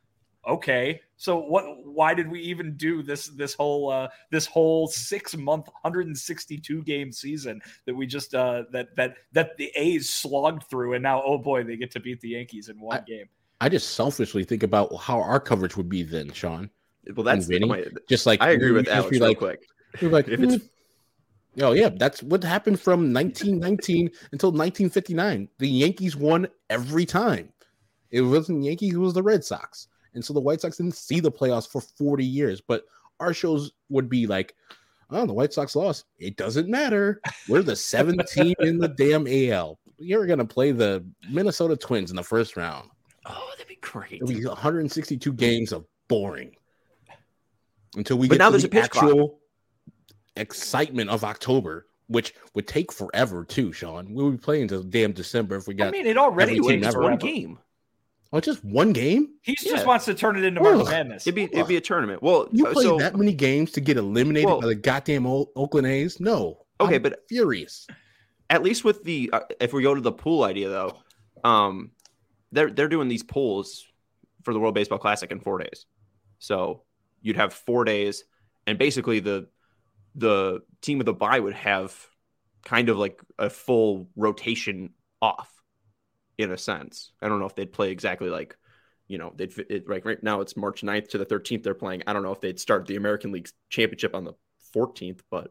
Okay, so why did we even do this whole 6-month 162 game season that we just that the A's slogged through, and now, oh boy, they get to beat the Yankees in one game. I just selfishly think about how our coverage would be then, Sean. Well, that's just like I agree with Alex real quick. We're like, oh yeah, that's what happened from 1919 until 1959. The Yankees won every time. It wasn't Yankees, it was the Red Sox. And so the White Sox didn't see the playoffs for 40 years. But our shows would be like, oh, the White Sox lost. It doesn't matter. We're the 7th team in the damn AL. You're going to play the Minnesota Twins in the first round. Oh, that'd be great. It'll be 162 games of boring. Until we but get now to there's the a pitch actual clock. Excitement of October, which would take forever too, Sean. We'll be playing until damn December if we got. I mean, it already takes one game. Oh, just one game? He just wants to turn it into March Madness. It'd be a tournament. Well, you play that many games to get eliminated by the goddamn Oakland A's? No. Okay, I'm furious. At least with the if we go to the pool idea though, they're doing these pools for the World Baseball Classic in 4 days. So you'd have 4 days, and basically the team with a bye would have kind of like a full rotation off. In a sense, I don't know if they'd play exactly like, right now it's March 9th to the 13th they're playing. I don't know if they'd start the American League Championship on the 14th, but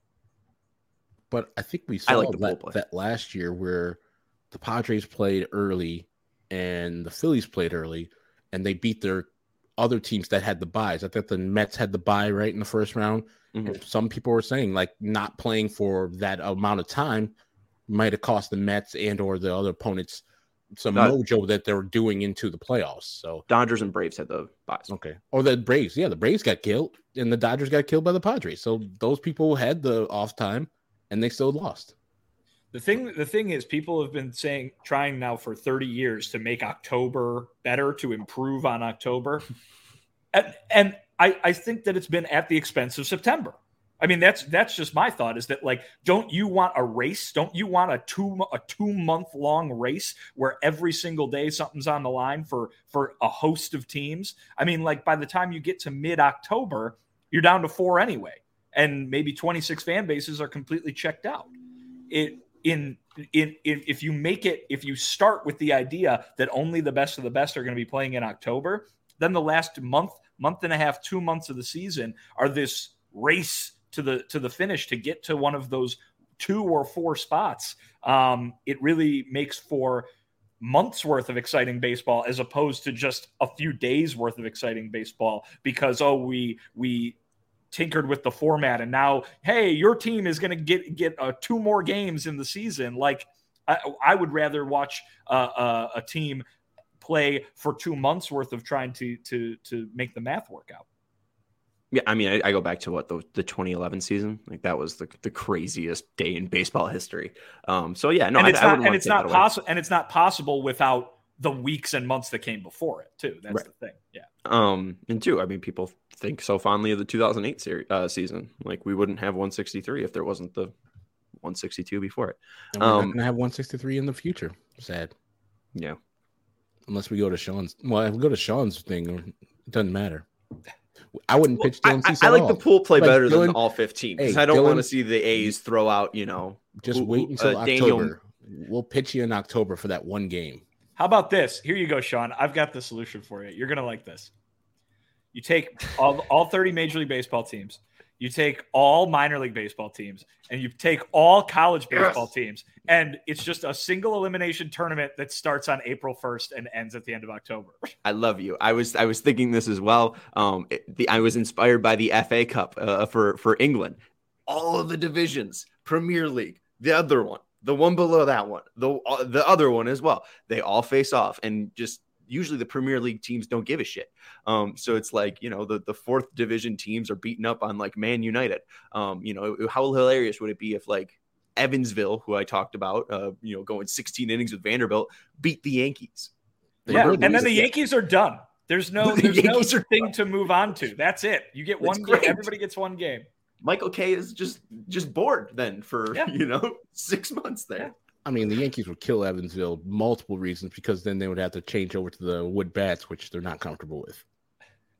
I think we saw that last year where the Padres played early and the Phillies played early, and they beat their other teams that had the byes. I think the Mets had the bye right in the first round. Mm-hmm. Some people were saying like not playing for that amount of time might have cost the Mets and or the other opponents some mojo that they were doing into the playoffs. So Dodgers and Braves had the byes. Okay. Or the Braves. Yeah, the Braves got killed and the Dodgers got killed by the Padres. So those people had the off time and they still lost. The thing is, people have been trying now for 30 years to make October better, to improve on October. and I think that it's been at the expense of September. I mean, that's just my thought, is that, like, don't you want a race? Don't you want a 2-month long race where every single day something's on the line for a host of teams? I mean, like, by the time you get to mid-October, you're down to 4 anyway, and maybe 26 fan bases are completely checked out. If you start with the idea that only the best of the best are going to be playing in October, then the last month and a half, 2 months of the season are this race to the finish to get to one of those 2 or 4 spots. It really makes for months worth of exciting baseball as opposed to just a few days worth of exciting baseball because, we tinkered with the format and now, hey, your team is going to get 2 more games in the season. Like, I would rather watch a team play for 2 months worth of trying to make the math work out. Yeah, I mean, I go back to the 2011 season. Like, that was the craziest day in baseball history. So yeah, no, and it's not possible, and it's not possible without the weeks and months that came before it too. That's right. The thing. Yeah. And two, I mean, people think so fondly of the 2008 season. Like, we wouldn't have 163 if there wasn't the 162 before it. And we're not going to have 163 in the future. Sad. Yeah. Unless we go to Sean's. Well, if we go to Sean's thing, it doesn't matter. I wouldn't pitch Dylan Cease I at like all. the pool play Like better Dylan, than all 15 because hey, I don't Dylan, want to see the A's throw out, just wait until October. We'll pitch you in October for that one game. How about this? Here you go, Sean. I've got the solution for you. You're going to like this. You take all 30 Major League Baseball teams. You take all minor league baseball teams, and you take all college baseball teams, and it's just a single elimination tournament that starts on April 1st and ends at the end of October. I love you. I was thinking this as well. I was inspired by the FA Cup for England. All of the divisions, Premier League, the other one, the one below that one, the other one as well. They all face off, and just usually the Premier League teams don't give a shit. So it's like, the 4th division teams are beating up on like Man United. How hilarious would it be if like Evansville, who I talked about, going 16 innings with Vanderbilt, beat the Yankees. And then the Yankees are done. There's no thing to move on to. That's it. You get one game. Everybody gets one game. Michael Kay is just bored then for 6 months there. Yeah. I mean, the Yankees would kill Evansville multiple reasons because then they would have to change over to the wood bats, which they're not comfortable with.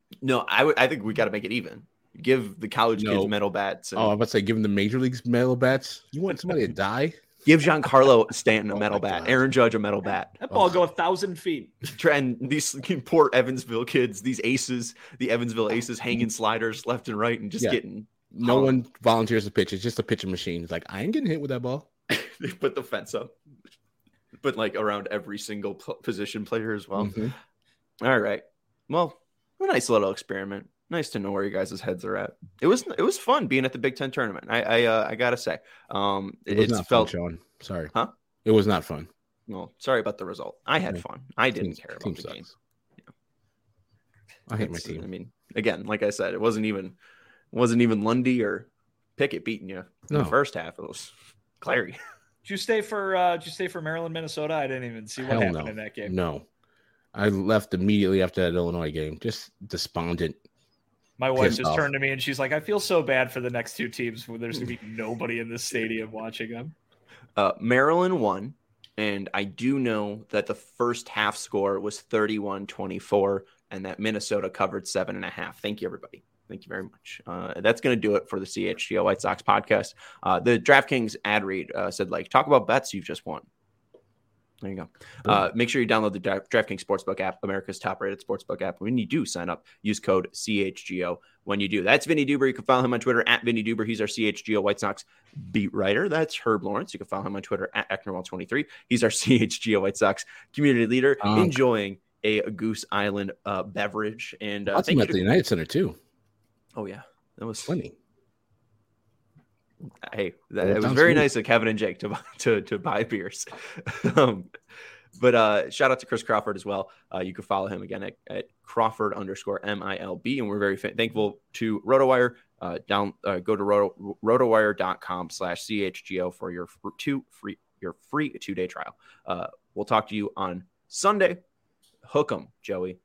No, I think we got to make it even. Give the college kids metal bats. I'm about to say, give them the major leagues metal bats. You want somebody to die? Give Giancarlo Stanton a metal bat. God. Aaron Judge a metal bat. That ball go 1,000 feet. And these poor Evansville kids, these aces, the Evansville aces hanging sliders left and right and just getting. No one volunteers to pitch. It's just a pitching machine. It's like, I ain't getting hit with that ball. They put the fence up. But like around every single position player as well. Mm-hmm. All right. Well, a nice little experiment. Nice to know where you guys' heads are at. It was fun being at the Big Ten tournament. I gotta say, it not felt fun, Sean. Sorry, huh? It was not fun. Well, sorry about the result. I had fun. I didn't care about the game. Yeah. I hate my team. I mean, again, like I said, it wasn't even Lundy or Pickett beating you in the first half. It was Clary. Did you stay for Maryland, Minnesota? I didn't even see what happened in that game. No, I left immediately after that Illinois game. Just despondent. My wife just turned to me and she's like, I feel so bad for the next two teams where there's going to be nobody in this stadium watching them. Maryland won, and I do know that the first half score was 31-24, and that Minnesota covered 7.5. Thank you, everybody. Thank you very much. That's going to do it for the CHGO White Sox podcast. The DraftKings ad read said, talk about bets you've just won. There you go. Make sure you download the DraftKings Sportsbook app, America's top-rated sportsbook app. When you do sign up, use code CHGO when you do. That's Vinny Duber. You can follow him on Twitter at Vinny Duber. He's our CHGO White Sox beat writer. That's Herb Lawrence. You can follow him on Twitter at Ecknerwall23. He's our CHGO White Sox community leader, enjoying a Goose Island beverage. And thank you at the United Center, too. Oh, yeah. That was funny. Hey, it was very nice of Kevin and Jake to buy beers. But shout out to Chris Crawford as well. You can follow him again at Crawford_MILB. And we're very thankful to RotoWire. Go to rotowire.com/CHGO for your free 2-day trial. We'll talk to you on Sunday. Hook 'em, Joey.